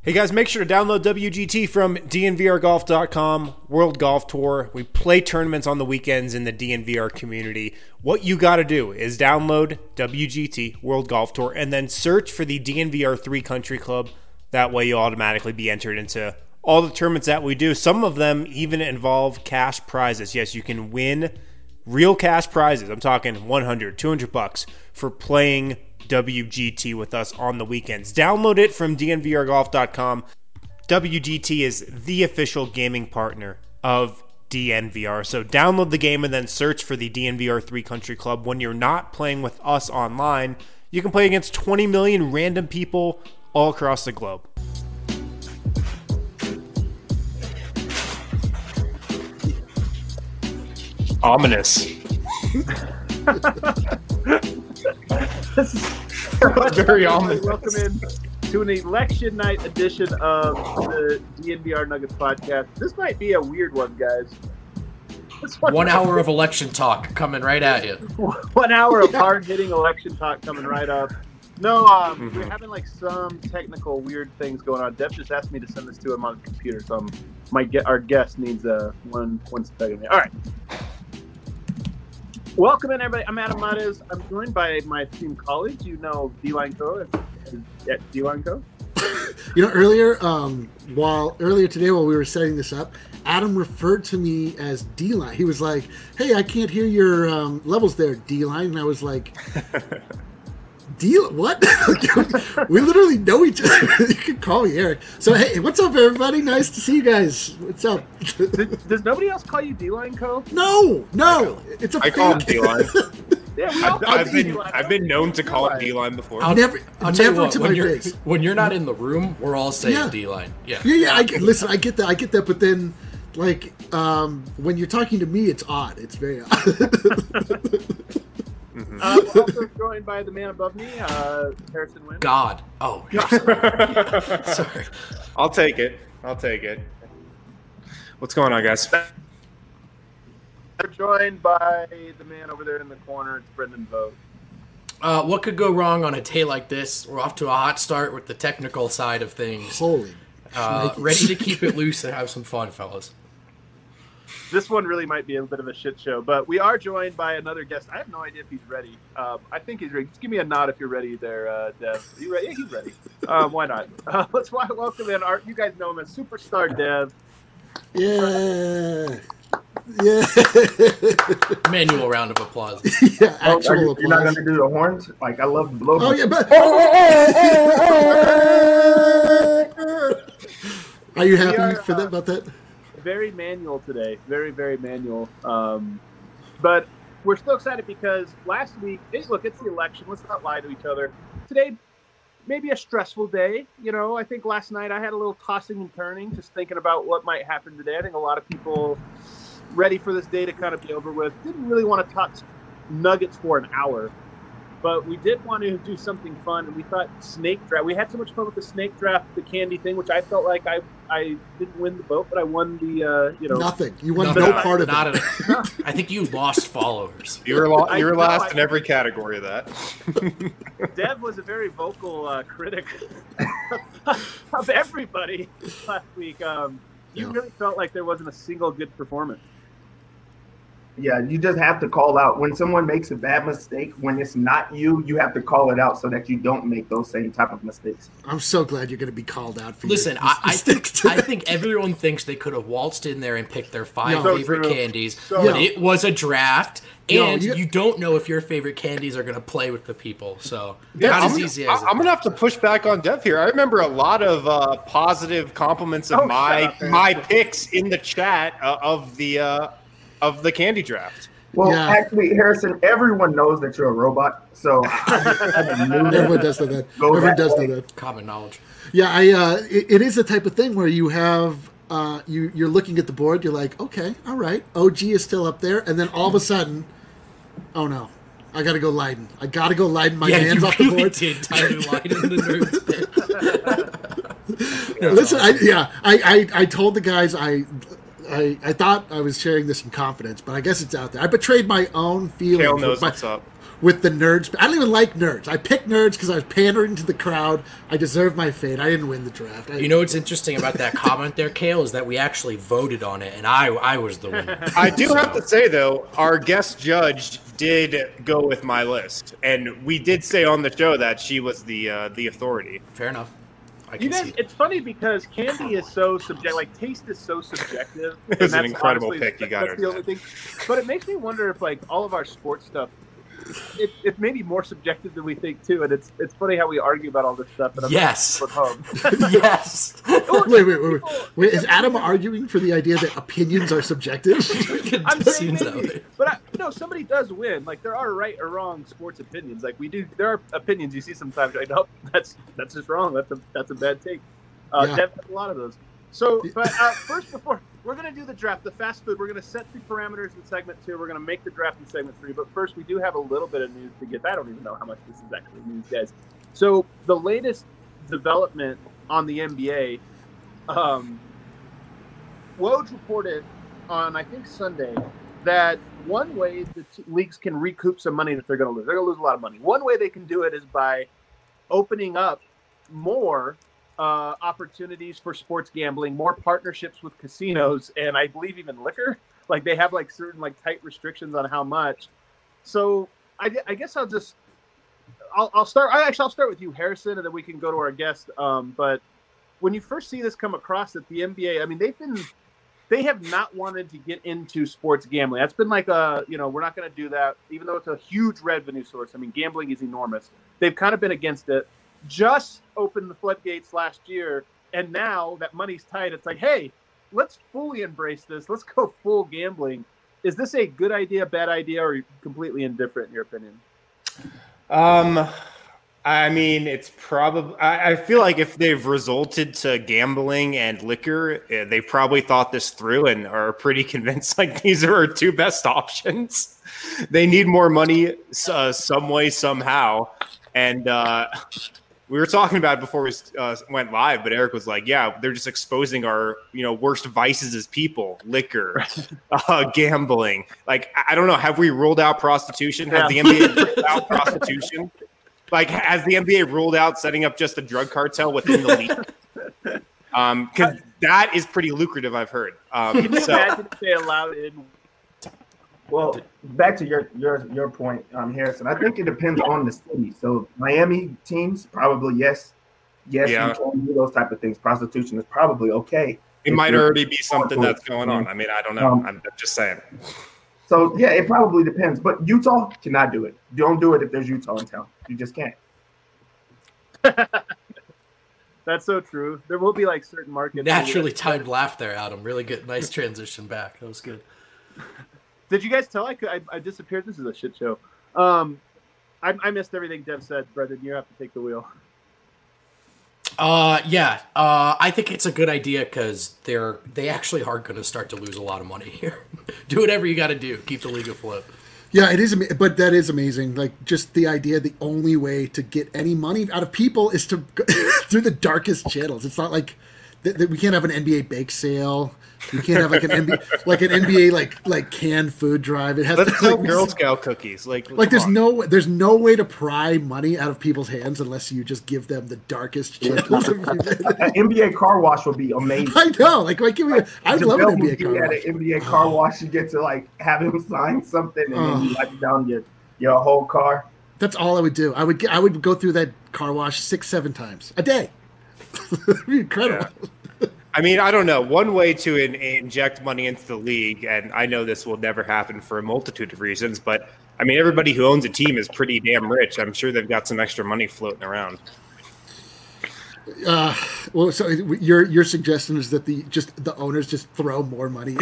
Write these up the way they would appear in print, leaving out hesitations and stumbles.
Hey guys, make sure to download WGT from DNVRGolf.com, World Golf Tour. We play tournaments on the weekends in the DNVR community. What you got to do is download WGT, World Golf Tour, and then search for the DNVR 3 Country Club. That way you'll automatically be entered into all the tournaments that we do. Some of them even involve cash prizes. Yes, you can win real cash prizes. I'm talking $100, $200 for playing WGT with us on the weekends. Download it from DNVRGolf.com. WGT is the official gaming partner of DNVR. So download the game and then search for the DNVR 3 Country Club. When you're not playing with us online, you can play against 20 million random people all across the globe. Ominous. This is very ominous. Welcome in to an election night edition of the DNVR Nuggets podcast. This might be a weird one, guys. 1 hour of election talk coming right at you. 1 hour of hard-hitting election talk coming right up. No, we're having like some technical weird things going on. Dev just asked me to send this to him on the computer, so our guest needs one second. All right. Welcome in, everybody. I'm Adam Mares. I'm joined by my esteemed colleagues. You know D-Line Co. at D-Line Co. Earlier today while we were setting this up, Adam referred to me as D-Line. He was like, "Hey, I can't hear your levels there, D-Line." And I was like, what? We literally know each other. You can call me Eric. So, hey, what's up, everybody? Nice to see you guys. What's up? Does nobody else call you D-Line Co? No. It's a I call him D-Line. Yeah, I've been known to call him D-Line before. I'll tell you what, to my face. When you're not in the room, we're all saying D-Line. Yeah. I get that. But then, like, when you're talking to me, it's odd. It's very odd. Also joined by the man above me, Harrison Wynn. God. Oh, sorry. I'll take it. What's going on, guys? We're joined by the man over there in the corner. It's Brendan Vogt. What could go wrong on a day like this? We're off to a hot start with the technical side of things. Holy. Ready to keep it loose and have some fun, fellas. This one really might be a bit of a shit show, but we are joined by another guest. I have no idea if he's ready. I think he's ready. Just give me a nod if you're ready there, Dev. Are you ready? Yeah, he's ready. Why not? Let's welcome in you guys know him as Superstar Dev. Yeah. Manual round of applause. Yeah, actual applause. You're not going to do the horns? Like, I love the blow. Oh, yeah, but... Are you happy about that? Very manual today. Very, very manual. But we're still excited because last week, it's the election. Let's not lie to each other. Today, maybe a stressful day. I think last night I had a little tossing and turning, just thinking about what might happen today. I think a lot of people ready for this day to kind of be over with. Didn't really want to talk Nuggets for an hour, but we did want to do something fun, and we thought snake draft. We had so much fun with the snake draft, the candy thing, which I felt like I didn't win the vote, but I won the nothing. You won no part of it. I think you lost followers. You were last in every category of that. Dev was a very vocal critic of everybody last week. You really felt like there wasn't a single good performance. Yeah, you just have to call out when someone makes a bad mistake. When it's not you, you have to call it out so that you don't make those same type of mistakes. I'm so glad you're going to be called out for. Listen, I think everyone thinks they could have waltzed in there and picked their five favorite candies, but it was a draft, and you don't know if your favorite candies are going to play with the people. So not as easy as I'm going to have to push back on Dev here. I remember a lot of positive compliments of my picks in the chat of the candy draft. Well, actually, Harrison, everyone knows that you're a robot, so everyone does know that. Everyone does know that. Common knowledge. Yeah, it is the type of thing where you have you're looking at the board, you're like, okay, all right, OG is still up there, and then all of a sudden, oh no, I got to go Leiden. My hands off the board. Did Tyler Leiden the nerds pick. Listen, I told the guys I thought I was sharing this in confidence, but I guess it's out there. I betrayed my own feelings. Kale knows what's up. with the nerds. I don't even like nerds. I picked nerds because I was pandering to the crowd. I deserve my fate. I didn't win the draft. You know what's interesting about that comment there, Kale, is that we actually voted on it, and I was the winner. I do have to say, though, our guest judge did go with my list, and we did say on the show that she was the authority. Fair enough. You guys, it's funny because candy is so subjective. Like, taste is so subjective. It was an incredible pick. You got it. The only thing. But it makes me wonder if, like, all of our sports stuff, it's maybe more subjective than we think too. And it's funny how we argue about all this stuff. And yes. Home. Yes. Wait. Is Adam arguing for the idea that opinions are subjective? I'm saying maybe, but somebody does win. Like, there are right or wrong sports opinions. Like, we do. There are opinions you see sometimes. Like, nope, that's just wrong. That's a bad take. Dev has a lot of those. So, but first, before we're going to do the draft, the fast food, we're going to set the parameters in segment 2. We're going to make the draft in segment 3. But first, we do have a little bit of news to get. I don't even know how much this is actually news, guys. So, the latest development on the NBA, Woj reported on, I think, Sunday, that one way the leagues can recoup some money that they're going to lose. They're going to lose a lot of money. One way they can do it is by opening up more opportunities for sports gambling, more partnerships with casinos, and I believe even liquor. Like, they have like certain like tight restrictions on how much. So I guess I'll start. I'll start with you, Harrison, and then we can go to our guest. But when you first see this come across at the NBA, I mean, they have not wanted to get into sports gambling. That's been like we're not going to do that, even though it's a huge revenue source. I mean, gambling is enormous. They've kind of been against it. Just opened the floodgates last year, and now that money's tight, it's like, hey, let's fully embrace this. Let's go full gambling. Is this a good idea, bad idea, or completely indifferent in your opinion? I mean, it's probably. I feel like if they've resulted to gambling and liquor, they probably thought this through and are pretty convinced like these are our two best options. They need more money some way, somehow, and we were talking about it before we went live, but Eric was like, yeah, they're just exposing our, worst vices as people, liquor, gambling. Like, I don't know. Have we ruled out prostitution? Has the NBA ruled out prostitution? Like, has the NBA ruled out setting up just a drug cartel within the league? Because that is pretty lucrative, I've heard. Can you imagine if they allowed in? Well, back to your point, Harrison. I think it depends on the city. So Miami teams, probably yes. You can do those type of things. Prostitution is probably okay. It might already be something that's going on. I mean, I don't know. I'm just saying. So, yeah, it probably depends. But Utah cannot do it. Don't do it if there's Utah in town. You just can't. That's so true. There will be like certain markets. Naturally timed laugh there, Adam. Really good. Nice transition back. That was good. Did you guys tell I disappeared? This is a shit show. I missed everything Dev said. Brendan, you have to take the wheel. I think it's a good idea because they actually are going to start to lose a lot of money here. Do whatever you got to do. Keep the league afloat. Yeah, it is, but that is amazing. Like, just the idea, the only way to get any money out of people is to go through the darkest channels. It's not like we can't have an NBA bake sale. We can't have like an NBA like canned food drive. It has Let's sell Girl Scout cookies. Like there's no way to pry money out of people's hands unless you just give them the darkest channels. An NBA car wash would be amazing. I know. Like I'd love an NBA car wash. At an NBA car wash, you get to like have him sign something and then you wipe down your whole car. That's all I would do. I would go through that car wash 6-7 times a day. It'd be incredible. Yeah. I mean, I don't know. One way to inject money into the league, and I know this will never happen for a multitude of reasons, but I mean, everybody who owns a team is pretty damn rich. I'm sure they've got some extra money floating around. Well, so your suggestion is that the owners just throw more money.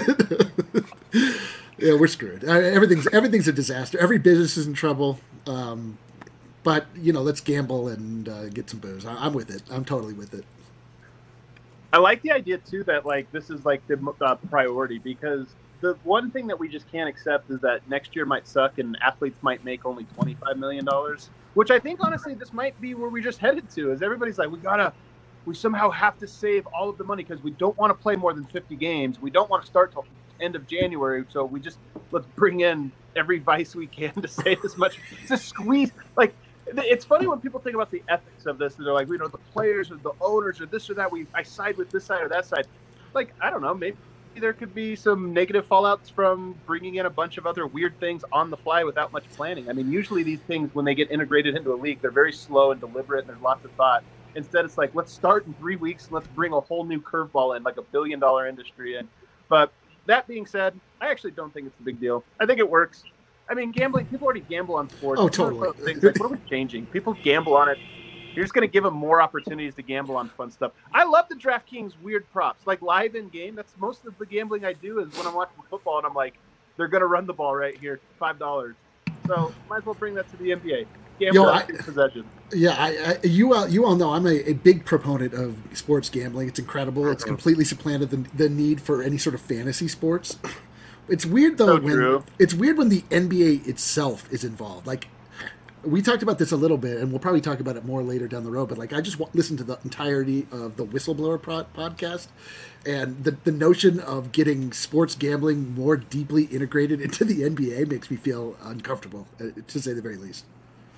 Yeah, we're screwed. Everything's a disaster. Every business is in trouble. But let's gamble and get some booze. I'm with it. I'm totally with it. I like the idea too that like this is like the priority, because the one thing that we just can't accept is that next year might suck and athletes might make only $25 million, which I think honestly this might be where we just headed to. Is everybody's like we somehow have to save all of the money because we don't want to play more than 50 games. We don't want to start till end of January, so let's bring in every vice we can to save as much, to squeeze. Like, it's funny when people think about the ethics of this, and they're like, the players or the owners or this or that, I side with this side or that side. Like, I don't know, maybe there could be some negative fallouts from bringing in a bunch of other weird things on the fly without much planning. I mean, usually these things, when they get integrated into a league, they're very slow and deliberate, and there's lots of thought. Instead, it's like, let's start in 3 weeks, let's bring a whole new curveball in, like $1 billion industry in. But that being said, I actually don't think it's a big deal. I think it works. I mean, gambling, people already gamble on sports. Oh, totally. Things like, what are we changing? People gamble on it. You're just going to give them more opportunities to gamble on fun stuff. I love the DraftKings weird props, like live in game. That's most of the gambling I do is when I'm watching football and I'm like, they're going to run the ball right here, $5. So might as well bring that to the NBA. Gamble on possession. Yeah, you all know I'm a big proponent of sports gambling. It's incredible. It's completely supplanted the need for any sort of fantasy sports. It's weird though it's weird when the NBA itself is involved. Like, we talked about this a little bit, and we'll probably talk about it more later down the road, but like, I just listened to the entirety of the Whistleblower podcast, and the notion of getting sports gambling more deeply integrated into the NBA makes me feel uncomfortable, to say the very least.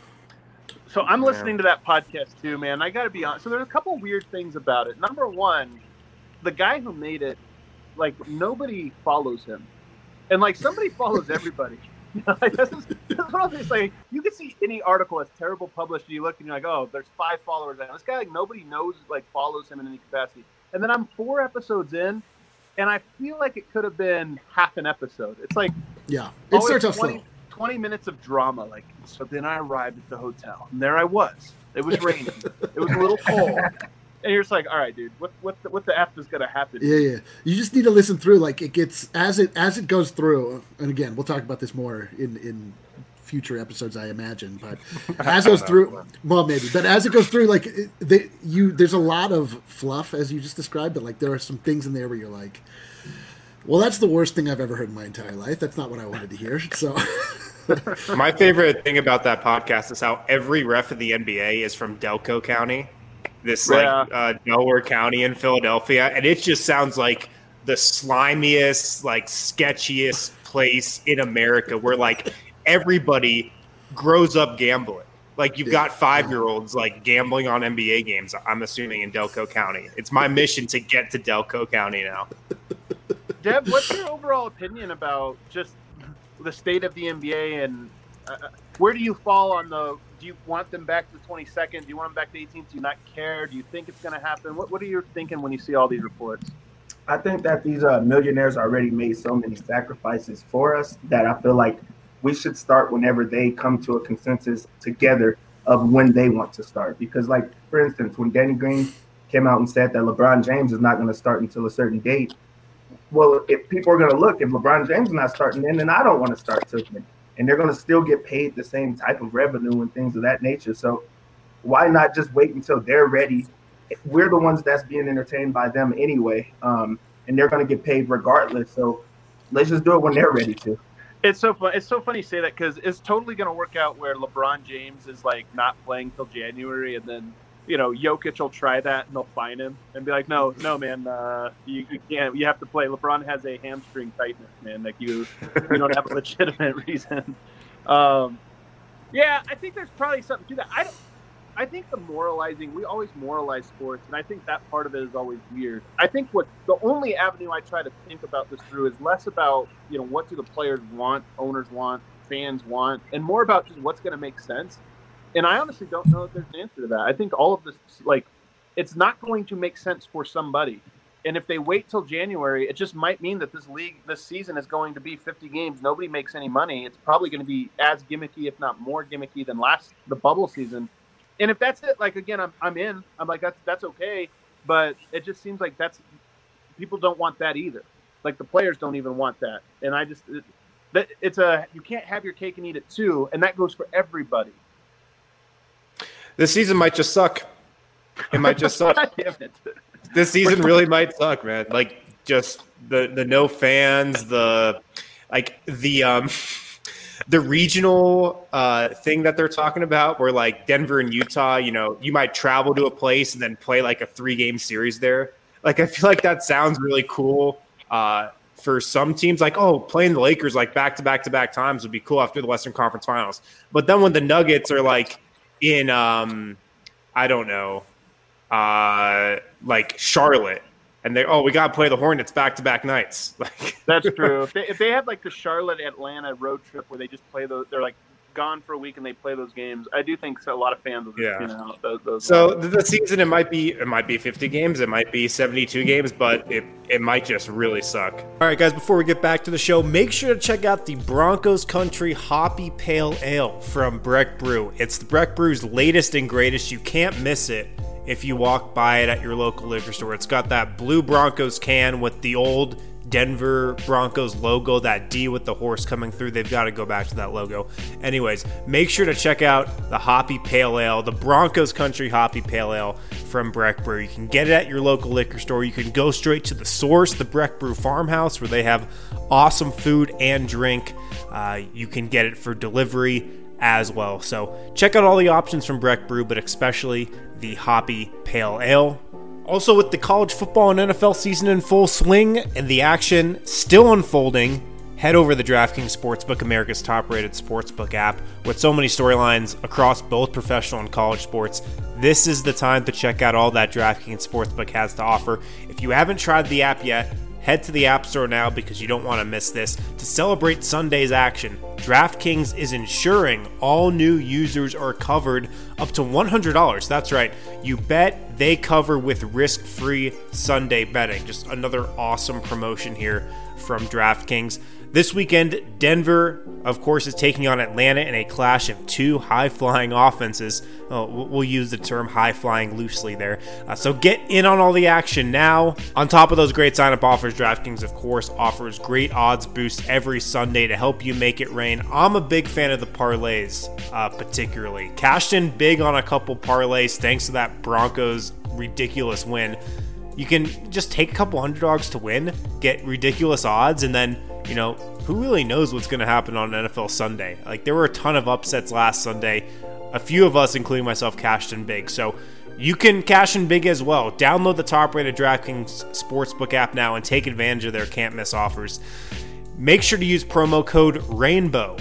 So I'm listening to that podcast too, man. I got to be honest. So there's a couple weird things about it. Number one, the guy who made it, like, nobody follows him. And like, somebody follows everybody. That's what I'm saying. You can see any article that's terrible published, and you look and you're like, oh, there's 5 followers. This guy, like, nobody knows, like, follows him in any capacity. And then I'm 4 episodes in, and I feel like it could have been half an episode. It's like, it starts off slow. 20 minutes of drama. Like, so then I arrived at the hotel, and there I was. It was raining. It was a little cold. And you're just like, all right, dude, what the F is going to happen? Yeah. You just need to listen through. Like, it gets, as it goes through, and again, we'll talk about this more in future episodes, I imagine. But as it goes through, well, maybe. But as it goes through, like, there's a lot of fluff, as you just described, but like, there are some things in there where you're like, well, that's the worst thing I've ever heard in my entire life. That's not what I wanted to hear. So. My favorite thing about that podcast is how every ref in the NBA is from Delco County. Delaware County in Philadelphia, and it just sounds like the slimiest, like, sketchiest place in America where, like, everybody grows up gambling. Like, you've got 5-year-olds, like, gambling on NBA games, I'm assuming, in Delco County. It's my mission to get to Delco County now. Deb, what's your overall opinion about just the state of the NBA, and where do you fall on do you want them back to the 22nd? Do you want them back to 18th? Do you not care? Do you think it's going to happen? What are you thinking when you see all these reports? I think that these millionaires already made so many sacrifices for us that I feel like we should start whenever they come to a consensus together of when they want to start. Because, like, for instance, when Danny Green came out and said that LeBron James is not going to start until a certain date, well, if people are going to look, if LeBron James is not starting then I don't want to start till then. And they're going to still get paid the same type of revenue and things of that nature. So why not just wait until they're ready? We're the ones that's being entertained by them anyway, and they're going to get paid regardless. So let's just do it when they're ready to. It's so fun. It's so funny you say that, because it's totally going to work out where LeBron James is, like, not playing till January, and then, Jokic will try that and they'll fine him and be like, no, man, you can't. You have to play. LeBron has a hamstring tightness, man. Like, you don't have a legitimate reason. Yeah, I think there's probably something to that. I think the moralizing, we always moralize sports, and I think that part of it is always weird. I think the only avenue I try to think about this through is less about, what do the players want, owners want, fans want, and more about just what's going to make sense. And I honestly don't know if there's an answer to that. I think all of this, like, it's not going to make sense for somebody. And if they wait till January, it just might mean that this season is going to be 50 games. Nobody makes any money. It's probably going to be as gimmicky, if not more gimmicky, than the bubble season. And if that's it, like, again, I'm in. I'm like, that's okay. But it just seems like people don't want that either. Like, the players don't even want that. And you can't have your cake and eat it too. And that goes for everybody. This season might just suck. It might just suck. This season really might suck, man. Like, just the no fans, the regional thing that they're talking about, where, like, Denver and Utah, you might travel to a place and then play, like, a 3-game series there. Like, I feel like that sounds really cool for some teams, like, oh, playing the Lakers like back-to-back times would be cool after the Western Conference Finals. But then when the Nuggets are like in, I don't know, like Charlotte, and we got to play the Hornets back-to-back nights. Like that's true. If they had like the Charlotte-Atlanta road trip where they just play they're like gone for a week and they play those games, I do think a lot of fans will those so the season, it might be 50 games, it might be 72 games, but it might just really suck. All right, guys, before we get back to the show, make sure to check out the Broncos Country Hoppy Pale Ale from Breck Brew. It's the Breck Brew's latest and greatest. You can't miss it if you walk by it at your local liquor store. It's got that blue Broncos can with the old Denver Broncos logo, that D with the horse coming through. They've got to go back to that logo. Anyways, make sure to check out the Hoppy Pale Ale, the Broncos Country Hoppy Pale Ale from Breck Brew. You can get it at your local liquor store. You can go straight to the source, the Breck Brew Farmhouse, where they have awesome food and drink. You can get it for delivery as well. So check out all the options from Breck Brew, but especially the Hoppy Pale Ale. Also, with the college football and NFL season in full swing and the action still unfolding, head over to the DraftKings Sportsbook, America's top-rated sportsbook app. With so many storylines across both professional and college sports, this is the time to check out all that DraftKings Sportsbook has to offer. If you haven't tried the app yet, head to the App Store now because you don't want to miss this. To celebrate Sunday's action, DraftKings is ensuring all new users are covered up to $100. That's right. You bet, they cover with risk-free Sunday betting. Just another awesome promotion here from DraftKings. This weekend, Denver, of course, is taking on Atlanta in a clash of two high-flying offenses. We'll use the term high-flying loosely there. So get in on all the action now. On top of those great sign-up offers, DraftKings, of course, offers great odds boosts every Sunday to help you make it rain. I'm a big fan of the parlays, particularly. Cashed in big on a couple parlays thanks to that Broncos ridiculous win. You can just take a couple underdogs to win, get ridiculous odds, and then, you know, who really knows what's going to happen on NFL Sunday? Like, there were a ton of upsets last Sunday. A few of us, including myself, cashed in big. So you can cash in big as well. Download the top-rated DraftKings Sportsbook app now and take advantage of their can't-miss offers. Make sure to use promo code RAINBOW,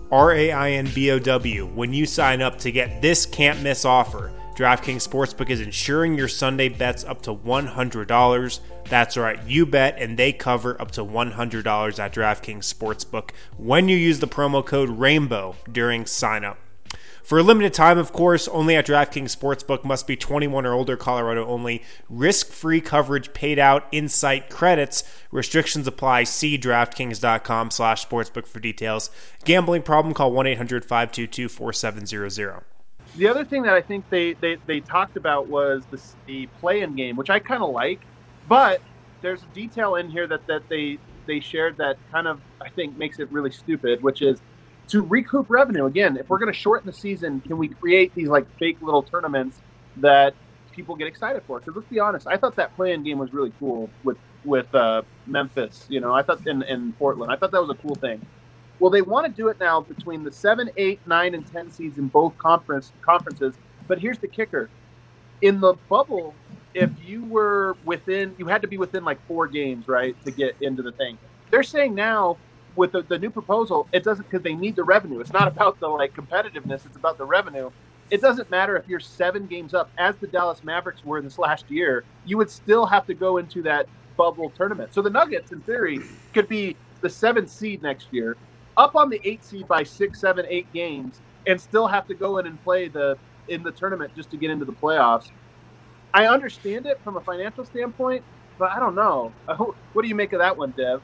RAINBOW, when you sign up to get this can't-miss offer. DraftKings Sportsbook is insuring your Sunday bets up to $100. That's right, you bet and they cover up to $100 at DraftKings Sportsbook when you use the promo code RAINBOW during sign-up. For a limited time, of course, only at DraftKings Sportsbook, must be 21 or older, Colorado only. Risk-free coverage paid out, in-site credits. Restrictions apply. See DraftKings.com/sportsbook for details. Gambling problem? Call 1-800-522-4700. The other thing that I think they talked about was the play-in game, which I kind of like, but there's a detail in here that they shared that kind of, I think, makes it really stupid, which is to recoup revenue. Again, if we're going to shorten the season, can we create these like fake little tournaments that people get excited for? Because let's be honest, I thought that play-in game was really cool with Memphis. You know, I thought in Portland, I thought that was a cool thing. Well, they want to do it now between the 7, 8, 9, and 10 seeds in both conferences. But here's the kicker. In the bubble, if you were within, you had to be within like 4 games, right, to get into the thing. They're saying now with the new proposal, it doesn't, because they need the revenue. It's not about the like competitiveness. It's about the revenue. It doesn't matter if you're 7 games up, as the Dallas Mavericks were this last year, you would still have to go into that bubble tournament. So the Nuggets, in theory, could be the 7th seed next year, up on the 8th seed by 6, 7, 8 games, and still have to go in and play in the tournament just to get into the playoffs. I understand it from a financial standpoint, but I don't know. What do you make of that one, Dev?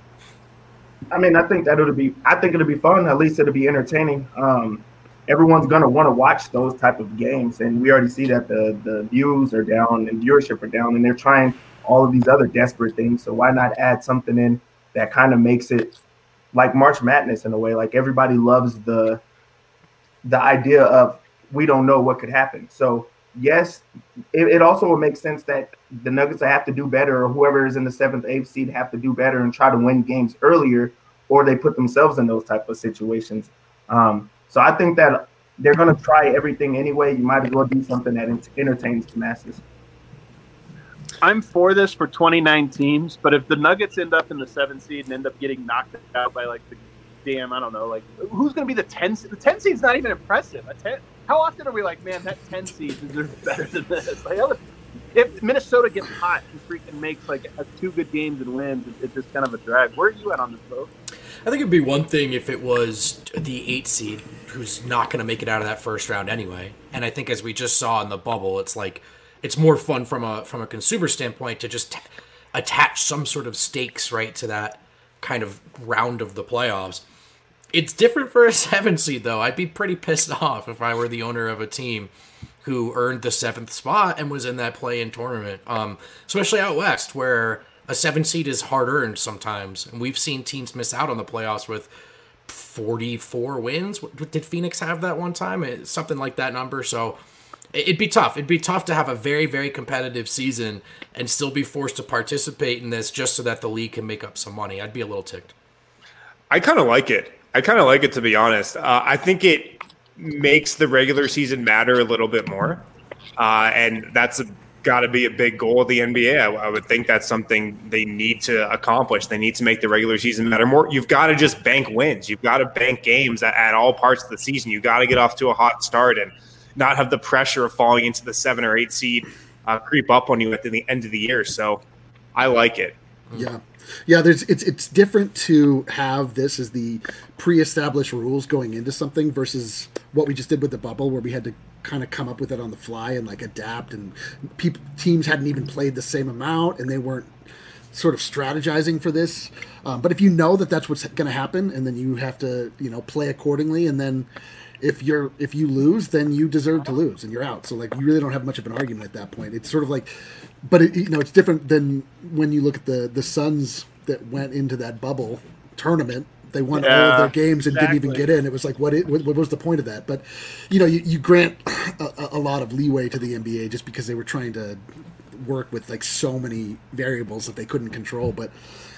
I mean, I think it'll be fun. At least it'll be entertaining. Everyone's gonna want to watch those type of games, and we already see that the views are down and viewership are down, and they're trying all of these other desperate things. So why not add something in that kind of makes it like March Madness in a way? Like, everybody loves the idea of we don't know what could happen. So yes, it also would make sense that the Nuggets have to do better, or whoever is in the 7th, 8th seed have to do better and try to win games earlier, or they put themselves in those type of situations. So I think that they're going to try everything anyway. You might as well do something that entertains the masses. I'm for this for 29 teams, but if the Nuggets end up in the 7 seed and end up getting knocked out by like the damn, I don't know, like who's going to be the 10 seed? The 10 seed's not even impressive. How often are we like, man, that 10 seed is better than this? Like, if Minnesota gets hot and freaking makes like 2 good games and wins, it's just kind of a drag. Where are you at on this, boat? I think it'd be one thing if it was the 8 seed who's not going to make it out of that first round anyway. And I think as we just saw in the bubble, it's like it's more fun from a consumer standpoint to just attach some sort of stakes, right, to that kind of round of the playoffs. It's different for a 7 seed, though. I'd be pretty pissed off if I were the owner of a team who earned the 7th spot and was in that play-in tournament, especially out west, where a 7 seed is hard-earned sometimes. And we've seen teams miss out on the playoffs with 44 wins. Did Phoenix have that one time? Something like that number. So it'd be tough. It'd be tough to have a very, very competitive season and still be forced to participate in this just so that the league can make up some money. I'd be a little ticked. I kind of like it. To be honest. I think it makes the regular season matter a little bit more. And that's got to be a big goal of the NBA. I would think that's something they need to accomplish. They need to make the regular season matter more. You've got to just bank wins. You've got to bank games at all parts of the season. You've got to get off to a hot start and not have the pressure of falling into the 7 or 8 seed creep up on you at the end of the year. So I like it. Yeah. Yeah, it's different to have this as the pre-established rules going into something versus what we just did with the bubble, where we had to kind of come up with it on the fly and like adapt, and teams hadn't even played the same amount and they weren't sort of strategizing for this. But if you know that that's what's going to happen, and then you have to play accordingly, and then if you lose, then you deserve to lose and you're out. So like you really don't have much of an argument at that point. It's sort of like, but it's different than when you look at the Suns that went into that bubble tournament. They won all of their games and didn't even get in. It was like, what was the point of that? But you grant a lot of leeway to the NBA just because they were trying to work with like so many variables that they couldn't control. But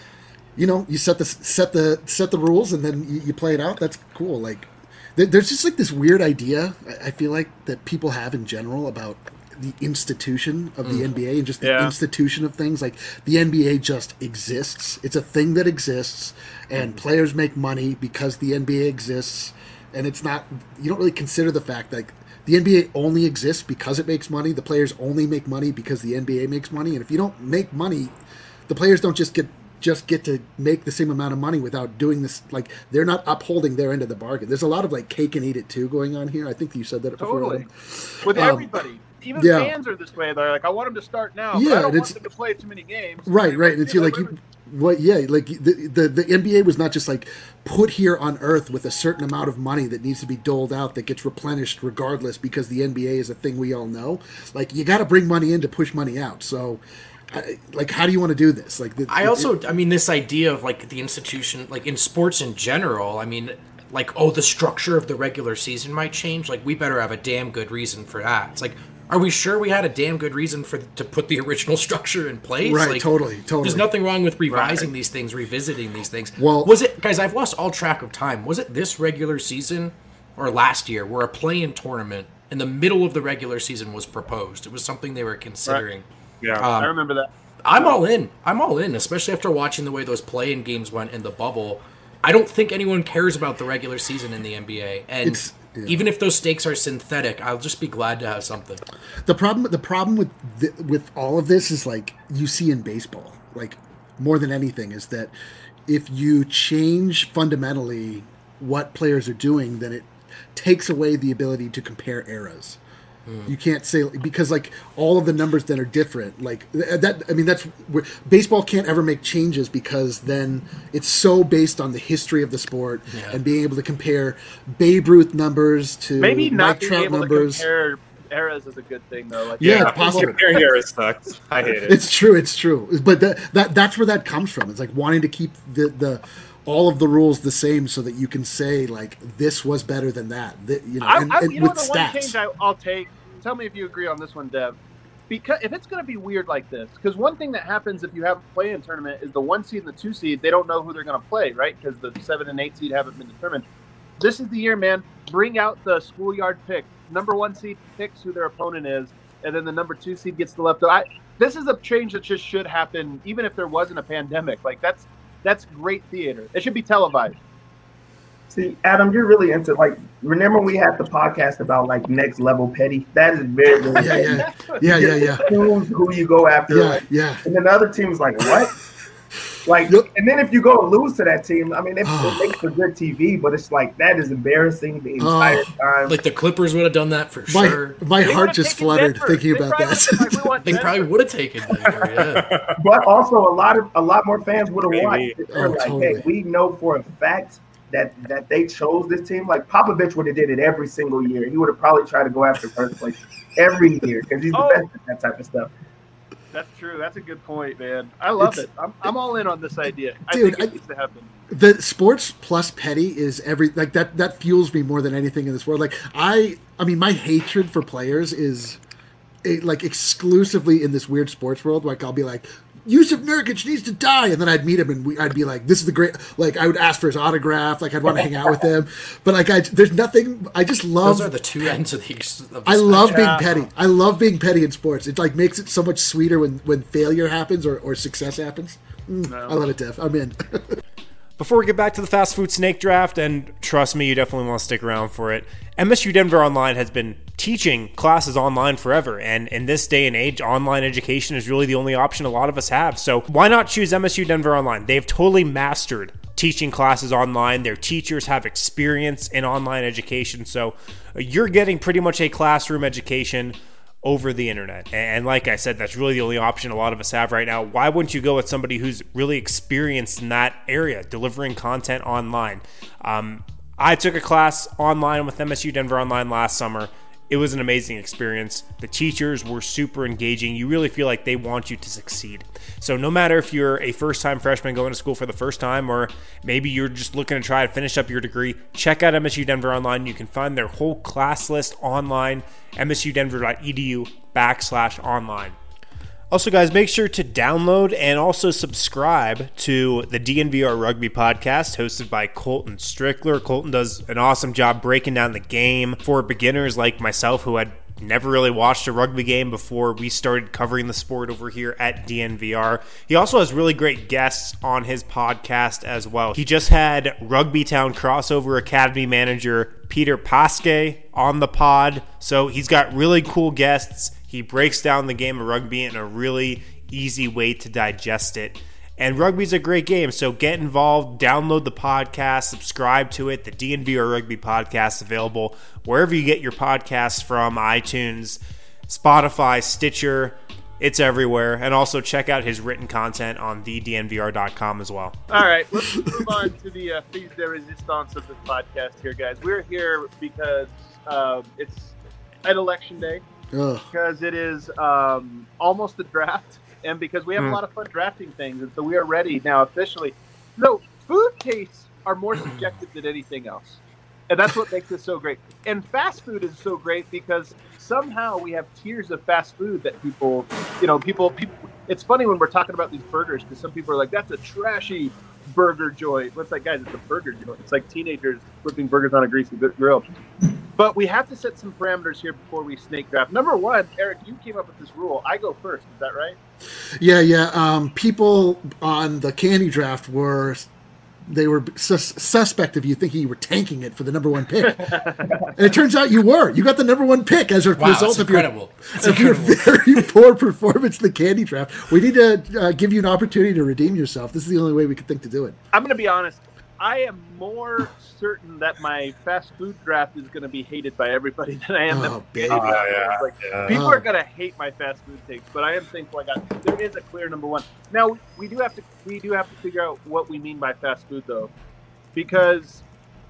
you set the rules and then you play it out. That's cool. Like there's just like this weird idea I feel like that people have in general about the institution of the NBA and just the institution of things. Like the NBA just exists. It's a thing that exists, and players make money because the NBA exists. And it's not, you don't really consider the fact that the NBA only exists because it makes money. The players only make money because the NBA makes money. And if you don't make money, the players don't just get to make the same amount of money without doing this. Like they're not upholding their end of the bargain. There's a lot of like cake and eat it too going on here. I think you said that before. Totally. With everybody. Even fans are this way. They're like, I want them to start now. But I don't want them to play too many games. Right. And it's like the NBA was not just like put here on Earth with a certain amount of money that needs to be doled out that gets replenished regardless because the NBA is a thing we all know. Like you got to bring money in to push money out. So. Like, how do you want to do this? Like, this idea of like the institution, like in sports in general. I mean, like, the structure of the regular season might change. Like, we better have a damn good reason for that. It's like, are we sure we had a damn good reason to put the original structure in place? Right, like, totally. There's nothing wrong with revising these things, revisiting these things. Well, was it, guys? I've lost all track of time. Was it this regular season or last year where a play-in tournament in the middle of the regular season was proposed? It was something they were considering. Right. Yeah, I remember that. I'm all in, especially after watching the way those play-in games went in the bubble. I don't think anyone cares about the regular season in the NBA, and even if those stakes are synthetic, I'll just be glad to have something. The problem with all of this is like you see in baseball, like more than anything, is that if you change fundamentally what players are doing, then it takes away the ability to compare eras. You can't say, because like all of the numbers then are different. Like that, I mean, that's where baseball can't ever make changes because then it's so based on the history of the sport and being able to compare Babe Ruth numbers to maybe not Mike Trout numbers. To compare eras is a good thing though. Like, it's possible. Comparing eras sucks. I hate it. It's true. But that's where that comes from. It's like wanting to keep the all of the rules the same so that you can say like this was better than that. With stats. One change I'll take. Tell me if you agree on this one, Dev. Because if it's going to be weird like this, because one thing that happens if you have a play-in tournament is the 1 seed and the 2 seed, they don't know who they're going to play, right? Because the 7 and 8 seed haven't been determined. This is the year, man. Bring out the schoolyard pick. Number 1 seed picks who their opponent is, and then the number 2 seed gets the leftover. this is a change that just should happen, even if there wasn't a pandemic. Like that's great theater. It should be televised. See, Adam, you're really into, like, remember we had the podcast about, like, next level petty? That is very, very yeah. Who you go after. Yeah. And then the other team is like, what? Like, and then if you go and lose to that team, I mean, it makes for good TV, but it's like, that is embarrassing the entire time. Like, the Clippers would have done that for sure. My heart just fluttered thinking about that. They probably would have taken Denver, yeah. But also, a lot more fans would have watched it. They're like, totally. hey, we know for a fact that they chose this team. Like, Popovich would have did it every single year. He would have probably tried to go after first place every year because he's the best at that type of stuff. That's true. That's a good point, man. I love it. I'm all in on this idea. Dude, I think it needs to happen. The sports plus petty is that fuels me more than anything in this world. Like, I mean, my hatred for players is like exclusively in this weird sports world. Like, I'll be like, Yusuf Nurkic needs to die, and then I'd meet him, and I'd be like, "This is the great." Like, I would ask for his autograph. Like, I'd want to hang out with him. But like, there's nothing. I just love. Those are the two ends of these. I love being petty. I love being petty in sports. It like makes it so much sweeter when failure happens or success happens. I love it, Dev. I'm in. Before we get back to the fast food snake draft, and trust me, you definitely want to stick around for it, MSU Denver Online has been teaching classes online forever, and in this day and age, online education is really the only option a lot of us have. So why not choose MSU Denver Online? They've totally mastered teaching classes online. Their teachers have experience in online education, so you're getting pretty much a classroom education over the internet. And like I said, that's really the only option a lot of us have right now. Why wouldn't you go with somebody who's really experienced in that area, delivering content online? I took a class online with MSU Denver Online last summer. It was an amazing experience. The teachers were super engaging. You really feel like they want you to succeed. So no matter if you're a first-time freshman going to school for the first time, or maybe you're just looking to try to finish up your degree, check out MSU Denver Online. You can find their whole class list online, msudenver.edu/online. Also, guys, make sure to download and also subscribe to the DNVR Rugby podcast hosted by Colton Strickler. Colton does an awesome job breaking down the game for beginners like myself who had never really watched a rugby game before we started covering the sport over here at DNVR. He also has really great guests on his podcast as well. He just had Rugby Town Crossover Academy manager Peter Pasquet on the pod, so he's got really cool guests. He breaks down the game of rugby in a really easy way to digest it. And rugby's a great game, so get involved, download the podcast, subscribe to it. The DNVR Rugby podcast is available wherever you get your podcasts from, iTunes, Spotify, Stitcher. It's everywhere. And also check out his written content on thednvr.com as well. All right, let's move on to the piece de resistance of this podcast here, guys. We're here because it's at Election Day. Because it is almost the draft, and because we have a lot of fun drafting things, and so we are ready now officially. So food tastes are more subjective than anything else, and that's what makes this so great. And fast food is so great because somehow we have tiers of fast food that people. It's funny when we're talking about these burgers because some people are like, "That's a trashy burger joint." What's like, guys? It's a burger joint. It's like teenagers flipping burgers on a greasy grill. But we have to set some parameters here before we snake draft. Number one, Eric, you came up with this rule. I go first. Is that right? Yeah. People on the candy draft were suspect of you thinking you were tanking it for the number one pick. And it turns out you were. You got the number one pick as a result of your very poor performance in the candy draft. We need to give you an opportunity to redeem yourself. This is the only way we could think to do it. I'm going to be honest. I am more certain that my fast food draft is going to be hated by everybody than I am. People are going to hate my fast food takes, but I am thankful there is a clear number one. Now we do have to figure out what we mean by fast food though, because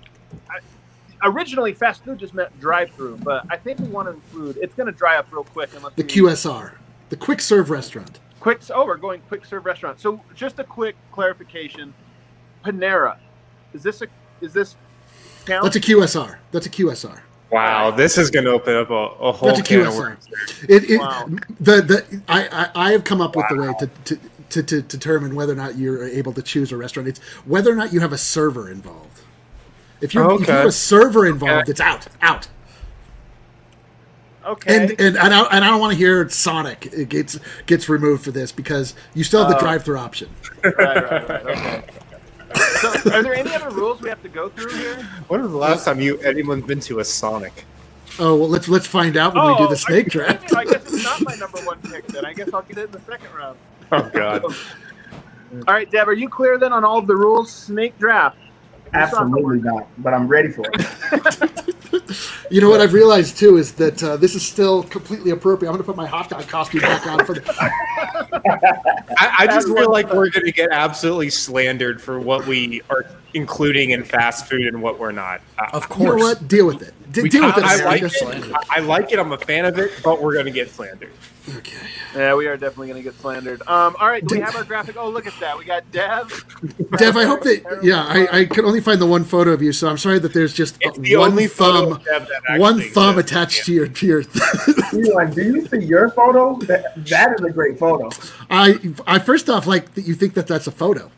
originally fast food just meant drive-through, but I think we want to include. It's going to dry up real quick unless the QSR, the quick serve restaurant. We're going quick serve restaurant. So just a quick clarification: Panera. Is this count? That's a QSR. Wow, this is going to open up a whole can of worms. I have come up with the way to determine whether or not you're able to choose a restaurant. It's whether or not you have a server involved. If you have a server involved, it's out. Okay. And I don't want to hear Sonic gets removed for this because you still have the drive-through option. Right. Okay. So, are there any other rules we have to go through here? When was the last time anyone's been to a Sonic? Oh, well, let's find out when we do the snake draft. I guess it's not my number one pick then. I guess I'll get it in the second round. Oh, God. All right, Deb, are you clear then on all of the rules? Snake draft. Absolutely not, but I'm ready for it. You know what I've realized too is that this is still completely appropriate. I'm going to put my hot dog costume back on for the. I just feel like we're going to get absolutely slandered for what we are including in fast food and what we're not. Of course. You know what? Deal with it. Deal with it. I like it. I'm a fan of it, but we're going to get slandered. Okay. Yeah, we are definitely going to get slandered. All right, do we have our graphic? Oh, look at that. We got Dev. Dev, I hope that. Yeah, I could only find the one photo of you, so I'm sorry that there's just one thumb attached to your. Elon, do you see your photo? That is a great photo. I first off like that you think that that's a photo.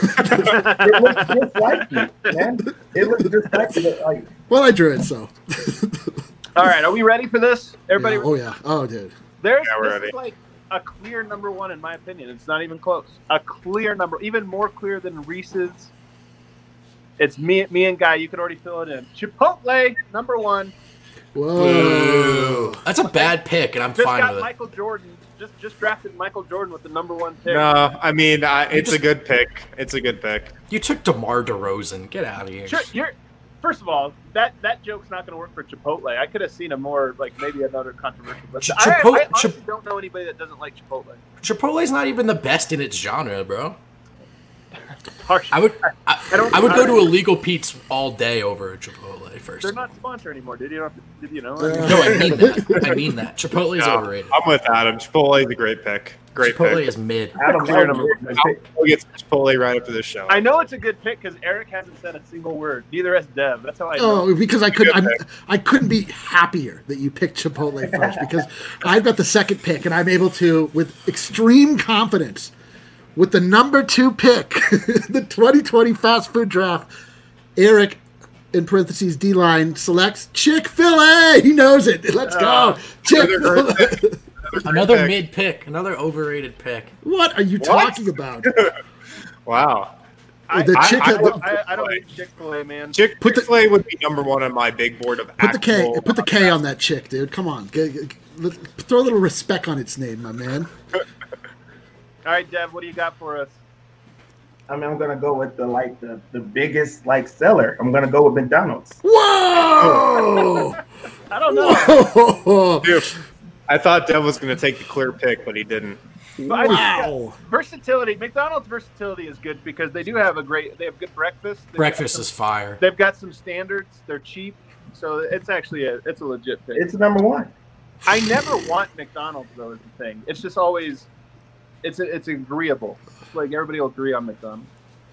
It looks just like you, man. It looks just like you. Like. Well, I drew it, so. All right, are we ready for this? Everybody? Yeah. Oh yeah. Oh, dude. This is like a clear number one in my opinion. It's not even close. A clear number, even more clear than Reese's. It's me and Guy. You can already fill it in. Chipotle, number one. Whoa. That's a bad pick, and I'm fine with it. Michael Jordan. Just drafted Michael Jordan with the number one pick. No, I mean it's a good pick. It's a good pick. You took DeMar DeRozan. Get out of here. Sure, first of all, that joke's not going to work for Chipotle. I could have seen a more maybe another controversial. But I honestly don't know anybody that doesn't like Chipotle. Chipotle's not even the best in its genre, bro. Harsh. I would go to Illegal Pete's all day over a Chipotle first. They're not sponsored anymore. Did you know? No, I mean that. Chipotle is overrated. I'm with Adam. Chipotle is a great pick. Chipotle is mid. Adam, We'll get Chipotle right after this show. I know it's a good pick because Eric hasn't said a single word. Neither has Dev. That's how I know. Oh, because I couldn't be happier that you picked Chipotle first because I've got the second pick and I'm able to, with extreme confidence, with the number 2 pick, the 2020 fast food draft, Eric, in parentheses, D-line, selects Chick-fil-A. He knows it. Let's go. Chick-fil-A. Another mid pick. Another overrated pick. What are you talking about? Wow. I don't eat Chick-fil-A, man. Chick-fil-A would be number one on my big board of Put the K on that chick, dude. Come on. Throw a little respect on its name, my man. All right, Dev, what do you got for us? I mean, I'm gonna go with the biggest seller. I'm gonna go with McDonald's. Whoa! I don't know. Whoa. Dude, I thought Dev was gonna take the clear pick, but he didn't. Wow. Versatility. McDonald's versatility is good because they have good breakfast. Breakfast is fire. They've got some standards. They're cheap, so it's actually a legit pick. It's number one. I never want McDonald's though. Is the thing. It's just always. It's agreeable. Like everybody will agree on McDonald's.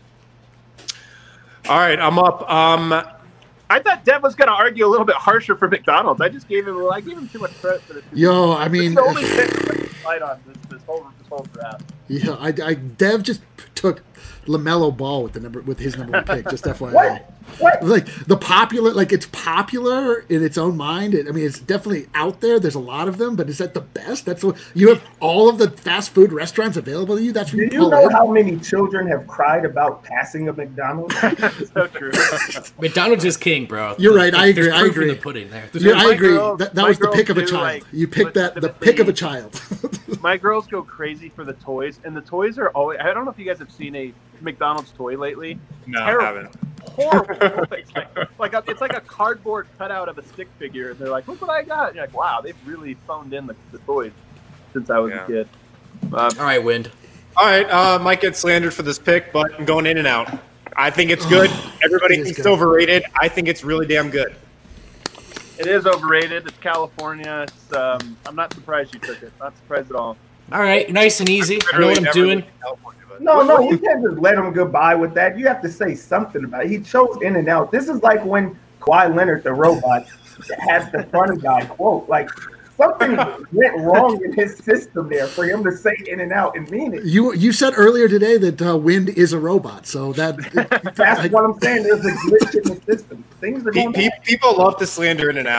All right, I'm up. I thought Dev was going to argue a little bit harsher for McDonald's. I gave him too much credit for this. Yo, I mean, the only fight on this whole draft. Yeah, Dev just took LaMelo Ball with his number 1 pick. Just FYI. What? Like it's popular in its own mind. It's definitely out there. There's a lot of them, but is that the best? That's what you have. All of the fast food restaurants available to you. That's where you know how many children have cried about passing a McDonald's? So true. McDonald's is king, bro. You're right. I agree. There's proof in the pudding there. Yeah, I agree. That was the pick of a child. You picked the pick of a child. My girls go crazy for the toys, and the toys are always. I don't know if you guys have seen a McDonald's toy lately. No, terrible. I haven't. Horrible. It's like a cardboard cutout of a stick figure, and they're like, "Look what I got!" And you're like, "Wow, they've really phoned in the toys since I was a kid." All right, Wind. All right, might get slandered for this pick, but I'm going in and out. I think it's good. Everybody thinks it's overrated. I think it's really damn good. It is overrated. It's California. I'm not surprised you took it. Not surprised at all. All right, nice and easy. I know what I'm doing. No, you can't just let him goodbye with that. You have to say something about it. He chose in and out. This is like when Kawhi Leonard, the robot, had the funny guy quote. Like, something went wrong in his system there for him to say in and out and mean it. You said earlier today that Wind is a robot, so that's what I'm saying. There's a glitch in the system. Things are going People love to slander in and out.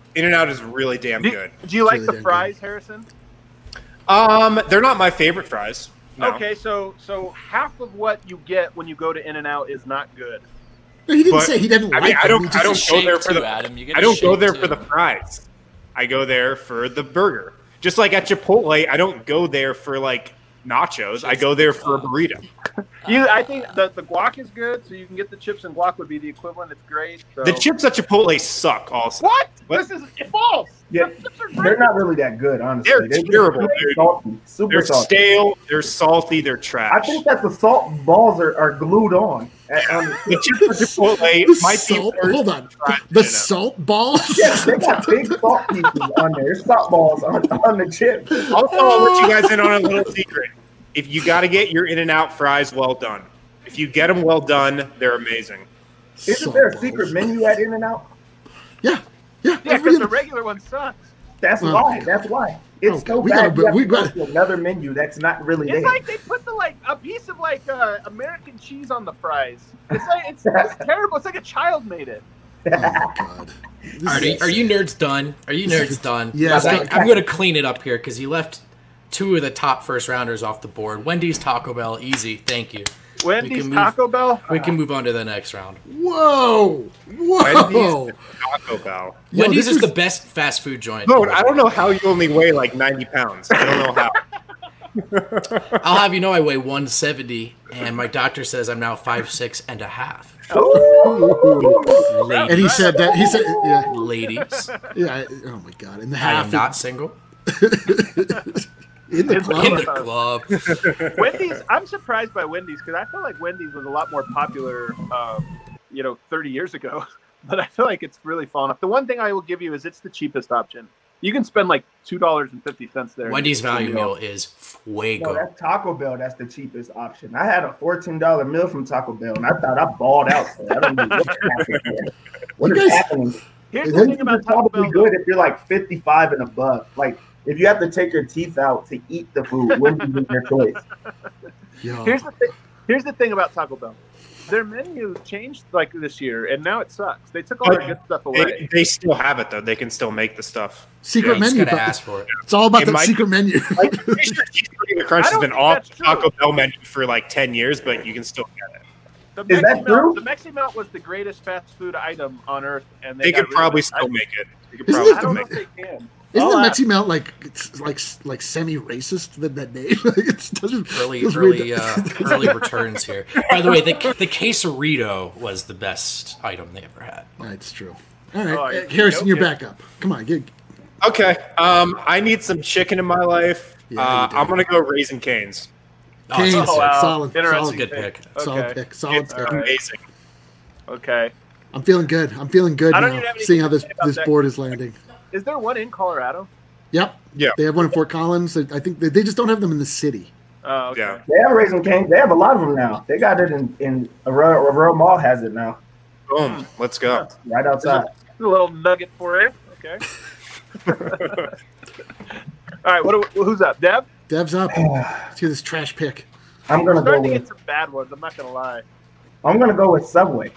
In-N-Out is really damn good. Do you like the fries, Harrison? They're not my favorite fries. No. Okay, so half of what you get when you go to In-N-Out is not good. No, he didn't say he didn't like. I don't go there for the Adam. fries. I go there for the burger. Just like at Chipotle, I don't go there for like nachos. I go there for a burrito. I think the guac is good, so you can get the chips and guac would be the equivalent. It's great. So. The chips at Chipotle suck. Also, what? This is false. Yeah, they're not really that good, honestly. They're terrible. Salty, they're salty. Stale. They're salty. They're trash. I think that the salt balls are glued on. The chips at Chipotle might be worse. Hold on. The salt balls? Yes, they got big salt pieces on there. There's salt balls on the chips. Also, I'll let you guys in on a little secret. If you got to get your In-N-Out fries well done. If you get them well done, they're amazing. Isn't there a secret menu at In-N-Out? Yeah. Yeah, because the regular one sucks. That's why. It's so bad. We got another menu that's not really there. It's like they put a piece of American cheese on the fries. It's terrible. It's like a child made it. Oh my God. Are you nerds done? Are you nerds done? Yeah. I'm going to clean it up here because you left two of the top first rounders off the board. Wendy's, Taco Bell, easy. Thank you. Wendy's, Taco Bell? We can move on to the next round. Whoa. Wendy's, Taco Bell. Wendy's is the best fast food joint. No, I don't know how you only weigh like 90 pounds. I don't know how. I'll have you know I weigh 170, and my doctor says I'm now 5'6" and a half. And he said that. He said, yeah. Ladies. Yeah. Oh my God. In the I half. am not single. In the club. In the club. Wendy's. I'm surprised by Wendy's because I feel like Wendy's was a lot more popular, 30 years ago. But I feel like it's really fallen off. The one thing I will give you is it's the cheapest option. You can spend like $2.50 there. Wendy's value meal is fuego. No, that's Taco Bell. That's the cheapest option. I had a $14 meal from Taco Bell, and I thought I balled out. So I don't know what's happening there. What is happening? Here's the thing about Taco Bell. Good if you're like 55 and above. Like if you have to take your teeth out to eat the food, Wendy's is your choice. Here's the thing about Taco Bell. Their menu changed like this year, and now it sucks. They took all their good stuff away. They still have it though. They can still make the stuff. Secret menu. Gotta ask for it. It's all about the secret menu. Like, Cheeseburger Crunch has been off the Taco Bell menu for like 10 years, but you can still get it. Is that true? The Mexi Melt was the greatest fast food item on earth, and they could probably still make it. I don't know if they can. Isn't the Mexi Melt like semi-racist that name? It doesn't early returns here. By the way, the quesarito was the best item they ever had. That's true. All right, Harrison, you're back up. Come on, get. Okay. I need some chicken in my life. Yeah, I'm gonna go Raising Cane's. Cane's, solid good pick. Solid pick. Solid pick. Amazing. Okay. I'm feeling good. I'm feeling good now. Seeing how this board is landing. Is there one in Colorado? Yep. Yeah. They have one in Fort Collins. I think they just don't have them in the city. Oh, okay. Yeah. They have Raising Cane's. They have a lot of them now. They got it in Aurora Mall has it now. Boom. Let's go. Right outside. A little nugget for you. Okay. All right. Who's up? Dev? Dev's up. Let's hear this trash pick. I'm gonna go with. Get some bad ones. I'm not gonna lie. I'm gonna go with Subway.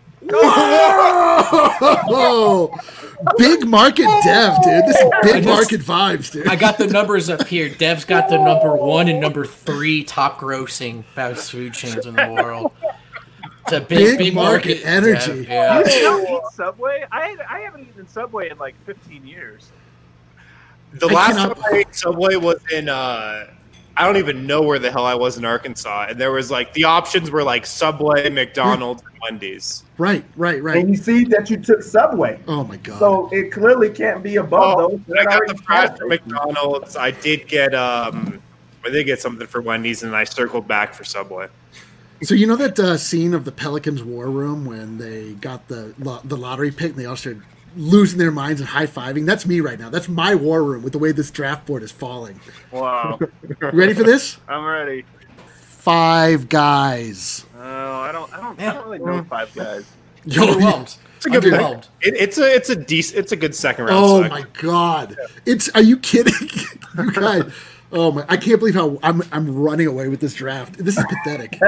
Oh, big market Dev, dude. This is big market vibes, dude. I got the numbers up here. Dev's got the number 1 and number 3 top grossing fast food chains in the world. It's a big market energy. Yeah. You don't eat Subway? I haven't eaten Subway in like 15 years. The last time I ate Subway was in I don't even know where the hell I was in Arkansas, and there was like the options were like Subway, McDonald's, and Wendy's. Right. And you see that you took Subway. Oh my God! So it clearly can't be above those. I got the fries from McDonald's. I did get something for Wendy's, and I circled back for Subway. So you know that scene of the Pelicans war room when they got the lottery pick and they all started losing their minds and high-fiving? That's me right now. That's my war room with the way this draft board is falling. Wow. You ready for this? I'm ready. Five Guys. Oh, I don't really know Five Guys. Underwhelmed. It's a good pick. It's a good second round. Oh my God! Are you kidding? You guys. Oh my! I can't believe how I'm running away with this draft. This is pathetic.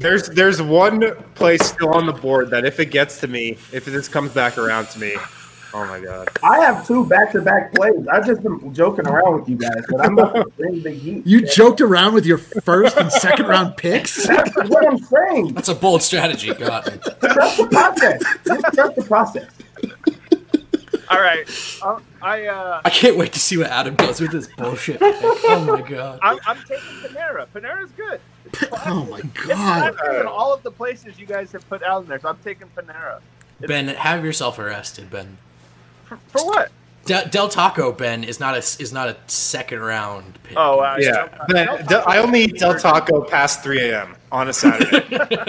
There's one place still on the board that if it gets to me, if this comes back around to me, Oh my god! I have 2 back-to-back plays. I've just been joking around with you guys, but I'm about to bring the heat. You joked around with your first and second round picks. That's what I'm saying. That's a bold strategy. God. Trust the process. Just trust the process. All right. I can't wait to see what Adam does with this bullshit. Oh my god. I'm taking Panera. Panera's good. Oh my It's god! not in all of the places you guys have put out in there, so I'm taking Panera. Ben, have yourself arrested, Ben. For what? Del Taco, Ben, is not a second round pick. Oh, Yeah, Ben, I only eat Del Taco past 3 a.m. on a Saturday.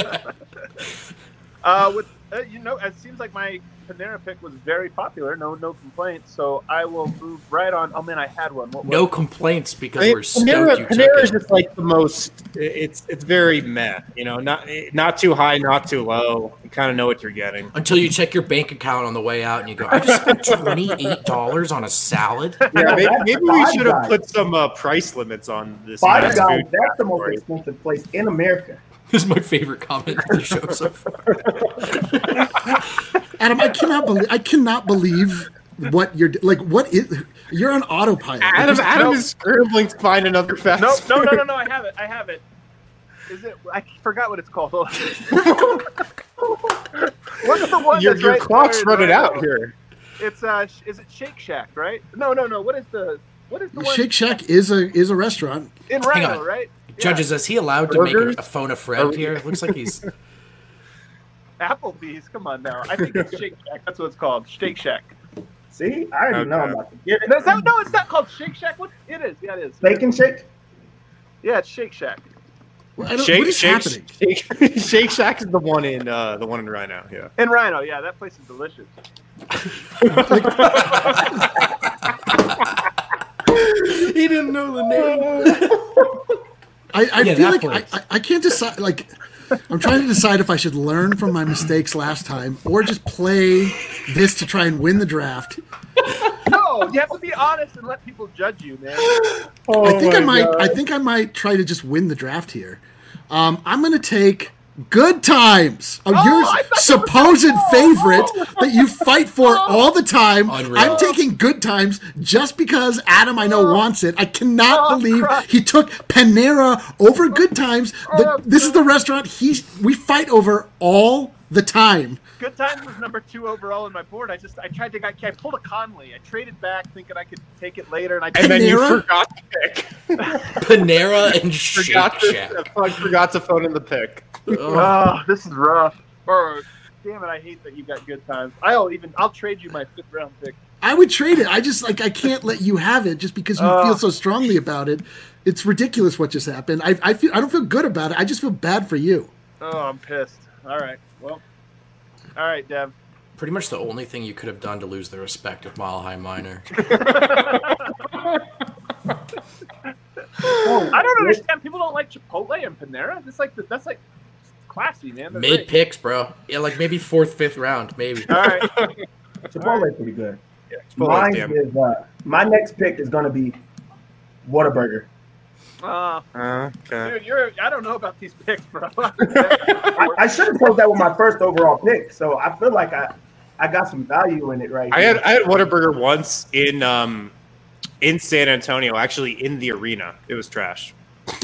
It seems like my Panera pick was very popular. No complaints. So I will move right on. Oh man, I had one. No complaints because we're stoked you took Panera is it. just like the most. It's very meh. Not too high, not too low. You kind of know what you're getting Until you check your bank account on the way out and you go, I just spent $28 on a salad. Yeah, maybe we should have put some price limits on this. Five Guys, that's the most expensive place in America. This is my favorite comment of the show so far. Adam, I cannot believe what you're like. What is you're on autopilot? Adam is scrambling to find another fast. No. I have it. Is it? I forgot what it's called. What's the one? Your clock's running out here. It's is it Shake Shack, right? No. What is the one? Shake Shack is a restaurant in Rhino, right? Judges, is he allowed to make a phone a friend here? It looks like he's Applebee's. Come on now. I think it's Shake Shack. That's what it's called. Shake Shack. See, I already know I'm about to get it. No, it's not called Shake Shack. What? It is. Yeah, it is. Bacon Shake? Yeah, it's Shake Shack. What is happening? Shake Shack is the one in Rhino. Yeah. In Rhino, yeah, that place is delicious. He didn't know the name. I feel like I can't decide. Like, I'm trying to decide if I should learn from my mistakes last time or just play this to try and win the draft. No, you have to be honest and let people judge you, man. I think I might try to just win the draft here. I'm going to take Good Times, your supposed favorite that you fight for all the time. Unreal. I'm taking Good Times just because Adam, I know, wants it. I cannot believe he took Panera over Good Times. This is the restaurant we fight over all the time. Good Times was number 2 overall on my board. I pulled a Conley. I traded back thinking I could take it later, and then you forgot to pick. Panera and Shake Shack. I forgot to phone in the pick. Oh, this is rough. Damn it! I hate that you got Good Times. I'll trade you my 5th round pick. I would trade it. I just I can't let you have it just because you feel so strongly about it. It's ridiculous what just happened. I don't feel good about it. I just feel bad for you. Oh, I'm pissed. All right. Well. All right, Dev. Pretty much the only thing you could have done to lose the respect of Mile High Minor. I don't understand. People don't like Chipotle and Panera. That's like classy, man. Mid picks, bro. Yeah, like maybe 4th, 5th round, maybe. All right. Chipotle's pretty good. Yeah, my next pick is going to be Whataburger. Okay. Dude, I don't know about these picks, bro. I should have chose that with my first overall pick, so I feel like I got some value in it right I had Whataburger once in San Antonio, actually in the arena. It was trash.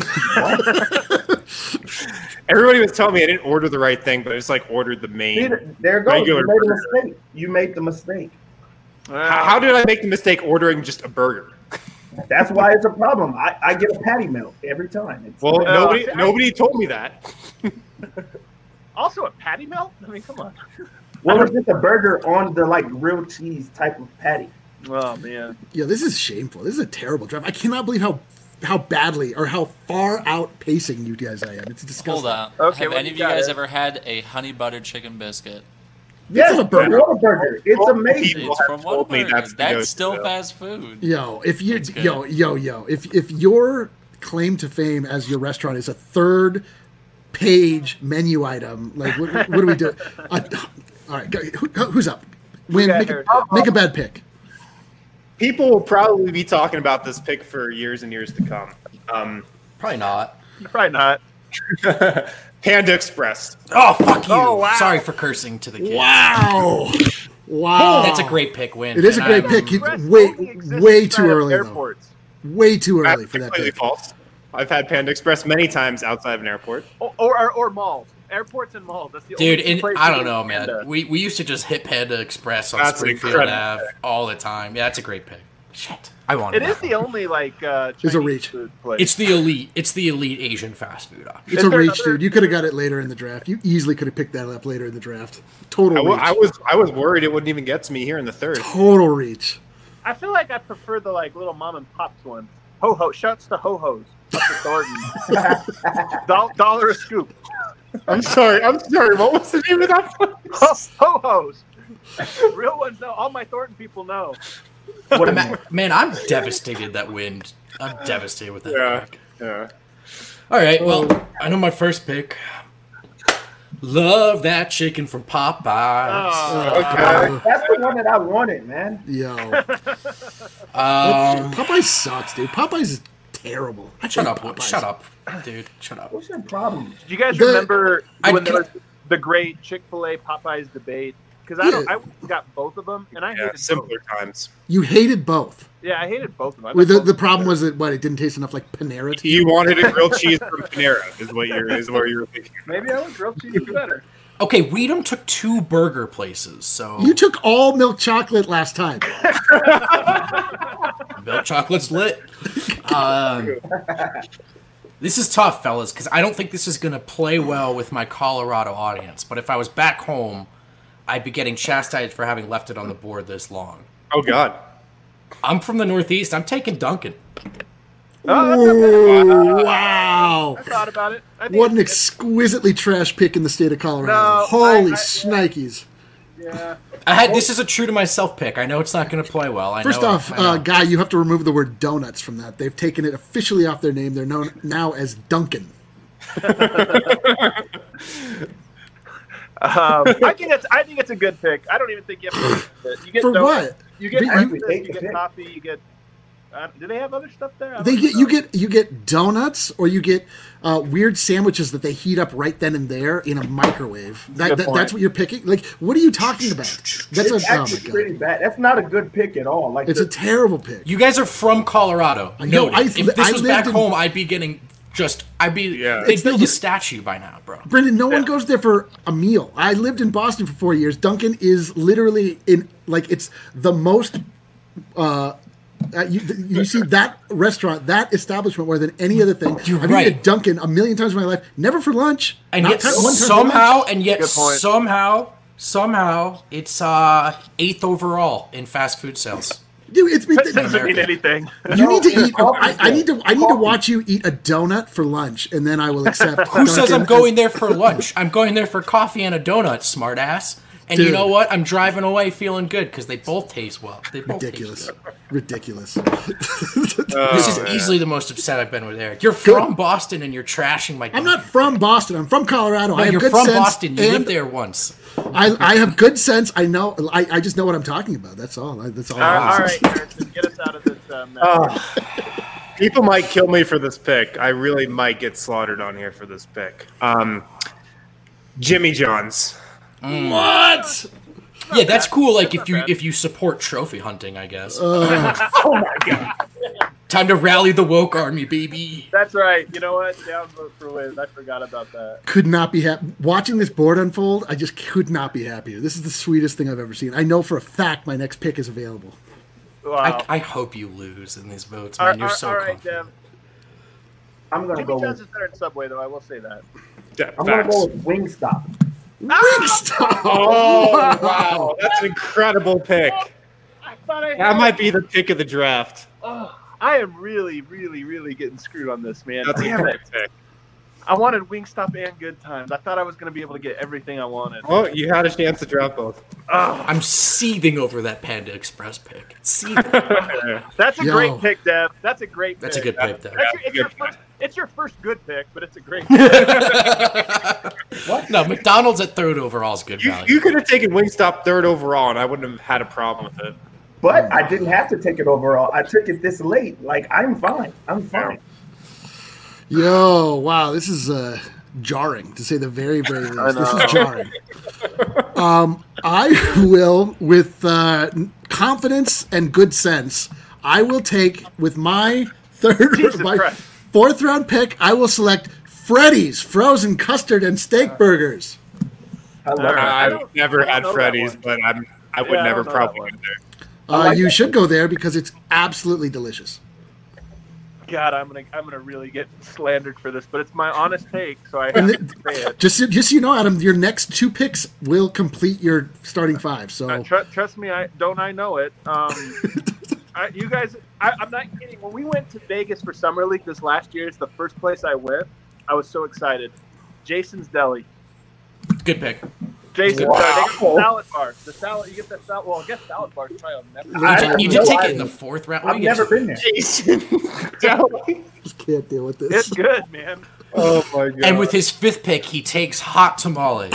Everybody was telling me I didn't order the right thing, but I just ordered the main. There goes. You made a mistake. You made the mistake. How did I make the mistake ordering just a burger? That's why it's a problem. I get a patty melt every time. Nobody told me that. Also, a patty melt? I mean, come on. Well, it's just a burger on the grilled cheese type of patty. Oh man. Yeah, this is shameful. This is a terrible draft. I cannot believe how badly or how far outpacing you guys I am. It's disgusting. Hold on. Okay, have any of you guys ever had a honey buttered chicken biscuit? Yes, it's a burger. It's amazing. It's from Whataburger. That's still fast food. If your claim to fame as your restaurant is a 3rd page menu item, what do we do? All right, who's up? Make a bad pick. People will probably be talking about this pick for years and years to come. Probably not. Panda Express. Oh, fuck you. Oh, wow. Sorry for cursing to the kids. Wow. Wow. That's a great pick, Win. It is a great pick. Way too early, though. Way too early for that pick. False. I've had Panda Express many times outside of an airport. Or malls. Airports and malls. That's the only place I don't know, man. We used to just hit Panda Express on Springfield Ave all the time. Yeah, that's a great pick. Shit. I want it. It is the only It's a reach. Food place. It's the elite Asian fast food option. It's a reach, dude. You could have got it later in the draft. You easily could have picked that up later in the draft. Total reach. I was worried it wouldn't even get to me here in the third. Total reach. I feel like I prefer the little mom and pops ones. Ho-ho. Shouts to ho-hos. Up to Thornton. $1 a scoop. I'm sorry. What was the name of that place? Ho-hos. Real ones know. All my Thornton people know. Man, I'm devastated that Win. I'm devastated with that pick. Yeah. All right, well, I know my first pick. Love that chicken from Popeyes. Okay. That's the one that I wanted, man. Yo. Popeyes sucks, dude. Popeyes is terrible. Shut up, dude. Shut up. What's your problem? Do you guys remember when there was the great Chick-fil-A Popeyes debate? Because I got both of them, and I hated simpler both. times. You hated both. Yeah, I hated both of them. The problem was that it didn't taste enough like Panera. You wanted a grilled cheese from Panera, is what you were thinking. Maybe I want grilled cheese better. Okay, Weedham took 2 burger places, so you took all milk chocolate last time. Milk chocolate's lit. This is tough, fellas, because I don't think this is going to play well with my Colorado audience. But if I was back home, I'd be getting chastised for having left it on the board this long. Oh, God. I'm from the Northeast. I'm taking Dunkin'. Oh, wow. I thought about it. What an exquisitely trash pick in the state of Colorado. Holy shnikes. Yeah. This is a true to myself pick. I know it's not going to play well. First off, Guy, you have to remove the word donuts from that. They've taken it officially off their name. They're known now as Dunkin'. I think it's a good pick. I don't even think you have to. You get for donuts, what? You get breakfast, you get coffee, you get. Do they have other stuff there? You get donuts, or you get weird sandwiches that they heat up right then and there in a microwave. That's what you're picking. Like, what are you talking about? That's actually pretty bad. That's not a good pick at all. Like, it's a terrible pick. You guys are from Colorado. No, if this was back home, I'd be getting. They'd build a statue by now, bro. Brendan, no one goes there for a meal. I lived in Boston for 4 years. Dunkin' is literally it's the most. You see that restaurant, that establishment more than any other thing. I've eaten at Dunkin' a million times in my life, never for lunch. And yet somehow, it's 8th overall in fast food sales. Dude, it doesn't mean anything. You need to eat. I need to watch you eat a donut for lunch, and then I will accept. Who says I'm going there for lunch? I'm going there for coffee and a donut, smartass. And you know what? I'm driving away feeling good because they both taste well. They both ridiculous. This is easily the most upset I've been with Eric. You're from Boston and you're trashing my. I'm not from Boston. I'm from Colorado. No, you're from Boston. You lived there once. I have good sense. I know. I just know what I'm talking about. That's all. That's all. All right, Harrison, get us out of this. People might kill me for this pick. I really might get slaughtered on here for this pick. Jimmy John's. What? Yeah, that's cool. Like if you support trophy hunting, I guess. Oh my god! Time to rally the woke army, baby. That's right. You know what? Downvote for Wiz. I forgot about that. Could not be happy watching this board unfold. I just could not be happier. This is the sweetest thing I've ever seen. I know for a fact my next pick is available. Wow. I hope you lose in these votes, man. You're so confident. Dev. I'm gonna go. Jimmy John's is better in Subway, though. I will say that. I'm gonna go with Wingstop. Wingstop! Oh, wow. That's an incredible pick. That might be the pick of the draft. I am really, really, really getting screwed on this, man. That's a great pick. I wanted Wingstop and Good Times. I thought I was going to be able to get everything I wanted. Well, you had a chance to draft both. I'm seething over that Panda Express pick. Seething. That's a great pick, Dev. That's a great pick. That's a good pick, Dev. It's your first good pick, but it's a great pick. What? No, McDonald's at 3rd overall is good value. You could have taken Wingstop 3rd overall, and I wouldn't have had a problem with it. But I didn't have to take it overall. I took it this late. Like, I'm fine. Yo, wow, this is jarring, to say the very, very least. This is jarring. I will, with confidence and good sense, I will take with my fourth round pick. I will select Freddy's frozen custard and steak burgers. I've never had Freddy's, but I would never probably go there. You should go there because it's absolutely delicious. God, I'm gonna really get slandered for this, but it's my honest take, so I have to say it. Just so you know, Adam, your next 2 picks will complete your starting 5. So trust me, I know it. You guys, I'm not kidding. When we went to Vegas for Summer League this last year, it's the first place I went. I was so excited. Jason's Deli. Good pick. Jason's Deli. They got the salad bar. The salad, you get that salad. Well, I guess salad bar is probably never. You did take it in the 4th round. I've never been there. Jason's Deli. Just can't deal with this. It's good, man. Oh my god! And with his 5th pick, he takes hot tamales.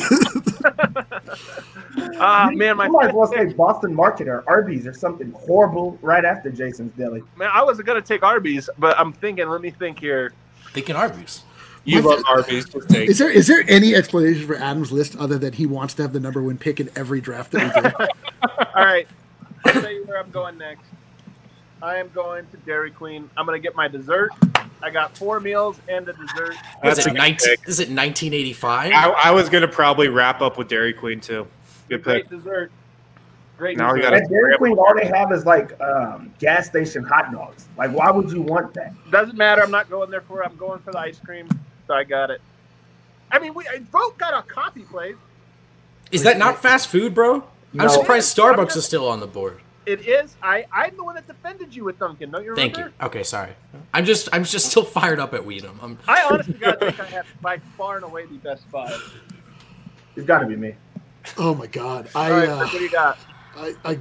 Man, you might as well say Boston Market or Arby's or something horrible right after Jason's Deli. Man, I wasn't gonna take Arby's, but I'm thinking. Let me think here. Thinking Arby's. You love Arby's. Is there any explanation for Adam's list other than he wants to have the number 1 pick in every draft that we do? All right, I'll tell you where I'm going next. I am going to Dairy Queen. I'm going to get my dessert. I got 4 meals and a dessert. Is it 1985? I was going to probably wrap up with Dairy Queen, too. Good pick. Great dessert. Great now dessert. At Dairy Queen, all they have is, like, gas station hot dogs. Like, why would you want that? Doesn't matter. I'm not going there for it. I'm going for the ice cream, so I got it. I mean, both got a coffee place. Is that not fast food, bro? No. I'm surprised Starbucks is still on the board. It is. I'm the one that defended you with Duncan. Don't you remember? Thank you. Okay, sorry. I'm just still fired up at Weedham. I honestly got to think I have by far and away the best 5. It's got to be me. Oh my god! All right, what do you got? I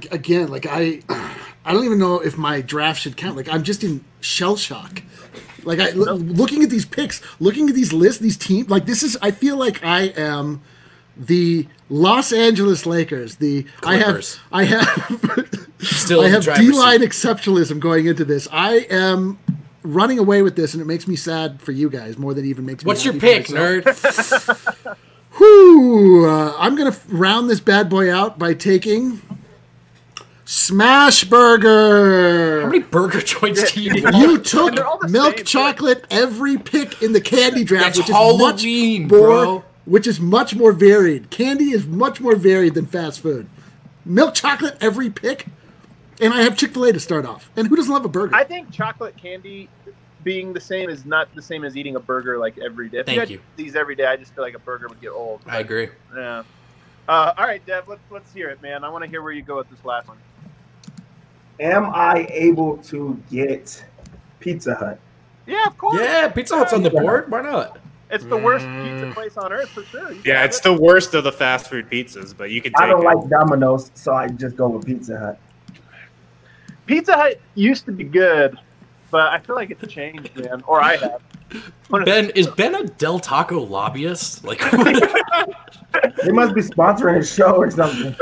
don't even know if my draft should count. Like I'm just in shell shock. Like looking at these picks, looking at these lists, these teams. Like this is. I feel like I am the Los Angeles Lakers. The Clippers. I have D-line exceptionalism going into this. I am running away with this, and it makes me sad for you guys more than it even makes me. What's your pick, nerd? Whew, I'm going to round this bad boy out by taking Smash Burger. How many burger joints do you want? You took milk chocolate every pick in the candy draft, which Halloween, is which is much more varied. Candy is much more varied than fast food. Milk chocolate every pick, and I have Chick-fil-A to start off. And who doesn't love a burger? I think chocolate candy being the same is not the same as eating a burger like every day. If Thank you. These every day, I just feel like a burger would get old. I agree. Yeah. All right, Dev, let's hear it, man. I want to hear where you go with this last one. Am I able to get Pizza Hut? Yeah, of course. Yeah, Pizza Hut's on the board. Why not? It's the worst pizza place on earth for sure. Yeah, it's the worst of the fast food pizzas, but you can take it. I don't like Domino's, so I just go with Pizza Hut. Pizza Hut used to be good, but I feel like it's changed, man. Or I have. Is Ben a Del Taco lobbyist? Like, he must be sponsoring a show or something.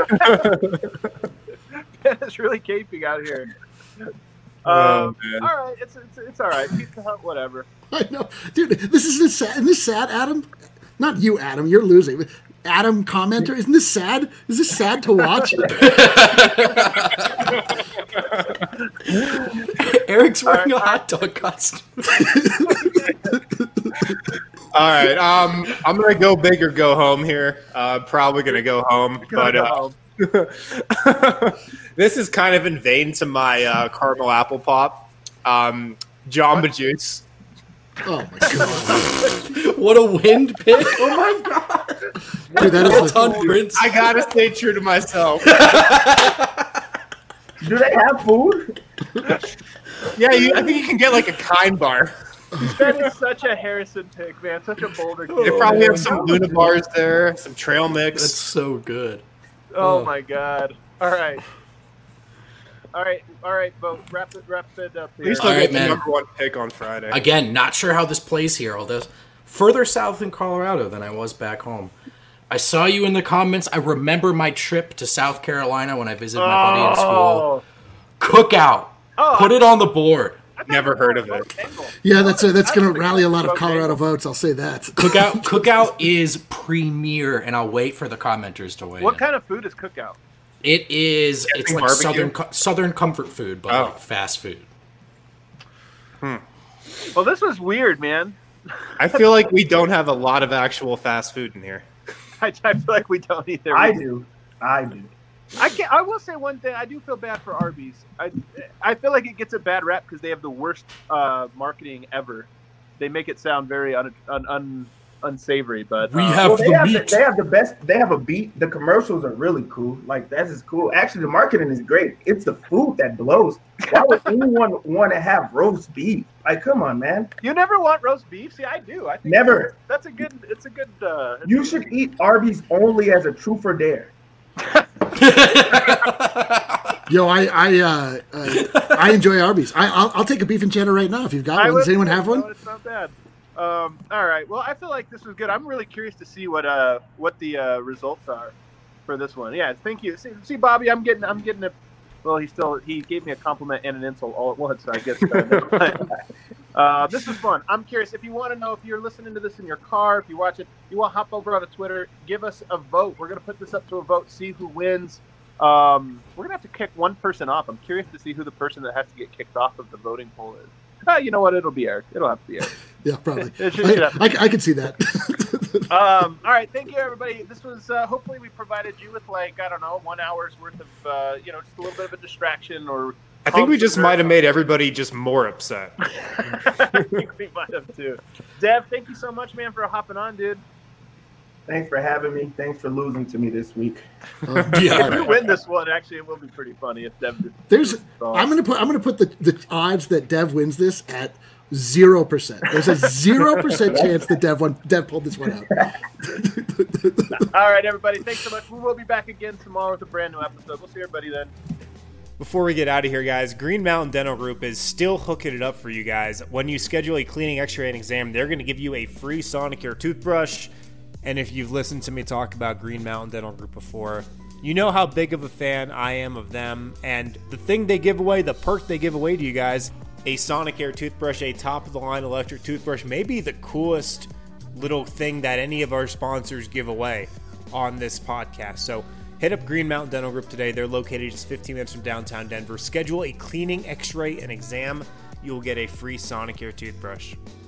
It's really caping out here. All right, it's all right. Pizza Hut, whatever. I know, dude. Isn't this sad, Adam? Not you, Adam. You're losing. Adam, commenter, isn't this sad? Is this sad to watch? Eric's wearing a hot dog costume. All right, I'm gonna go big or go home here. Probably gonna go home, this is kind of in vain to my caramel apple pop, Jamba Juice. Oh my god! What a wind pick! Oh my god! Dude, that is I gotta stay true to myself. Do they have food? Yeah, I think you can get like a Kind bar. That is such a Harrison pick, man. Such a Boulder kid. They probably have some Luna bars there, some trail mix. That's so good. Oh my god! All right, Bo. Wrap it up here. At least I'll get the number 1 pick on Friday. Again, not sure how this plays here. Although further south in Colorado than I was back home. I saw you in the comments. I remember my trip to South Carolina when I visited my buddy in school. Cookout. Put it on the board. Never heard of it. Yeah, that's going to rally a lot of Colorado votes. I'll say that. Cookout is premier, and I'll wait for the commenters to weigh in. What kind of food is Cookout? It's like southern comfort food, but like fast food. Well, this was weird, man. I feel like we don't have a lot of actual fast food in here. I feel like we don't either. I do. I will say one thing. I do feel bad for Arby's. I feel like it gets a bad rap because they have the worst marketing ever. They make it sound very unsavory, but they have the best. They have a beat. The commercials are really cool. Like that is cool. Actually, the marketing is great. It's the food that blows. Why would anyone want to have roast beef? Like, come on, man. You never want roast beef? See, I do. I think never. That's a good. It's a good. You should eat Arby's only as a truth or dare. Yo, I enjoy Arby's. I'll take a beef enchanter right now if you've got one. Does anyone have one? No, it's not bad. All right. Well, I feel like this was good. I'm really curious to see what the results are for this one. Yeah, thank you. See, Bobby, I'm getting a. Well, he gave me a compliment and an insult all at once. So I guess this is fun. I'm curious if you want to know if you're listening to this in your car, if you watch it, you want to hop over onto Twitter, give us a vote. We're gonna put this up to a vote, see who wins. We're gonna have to kick one person off. I'm curious to see who the person that has to get kicked off of the voting poll is. You know what? It'll be Eric. It'll have to be Eric. Yeah, probably. I can see that. All right. Thank you, everybody. This was, hopefully we provided you with 1 hour's worth of, just a little bit of a distraction or. I think we just might have made everybody just more upset. I think we might have too. Dev, thank you so much, man, for hopping on, dude. Thanks for having me. Thanks for losing to me this week. If you win this one, actually, it will be pretty funny if Dev. I'm gonna put the odds that Dev wins this at 0%. There's a 0% chance that Dev pulled this one out. All right, everybody. Thanks so much. We will be back again tomorrow with a brand new episode. We'll see everybody then. Before we get out of here, guys, Green Mountain Dental Group is still hooking it up for you guys. When you schedule a cleaning, X-ray, and exam, they're going to give you a free Sonicare toothbrush. And if you've listened to me talk about Green Mountain Dental Group before, you know how big of a fan I am of them. And the thing they give away, the perk they give away to you guys, a Sonicare toothbrush, a top-of-the-line electric toothbrush, may be the coolest little thing that any of our sponsors give away on this podcast. So hit up Green Mountain Dental Group today. They're located just 15 minutes from downtown Denver. Schedule a cleaning, X-ray, and exam. You'll get a free Sonicare toothbrush.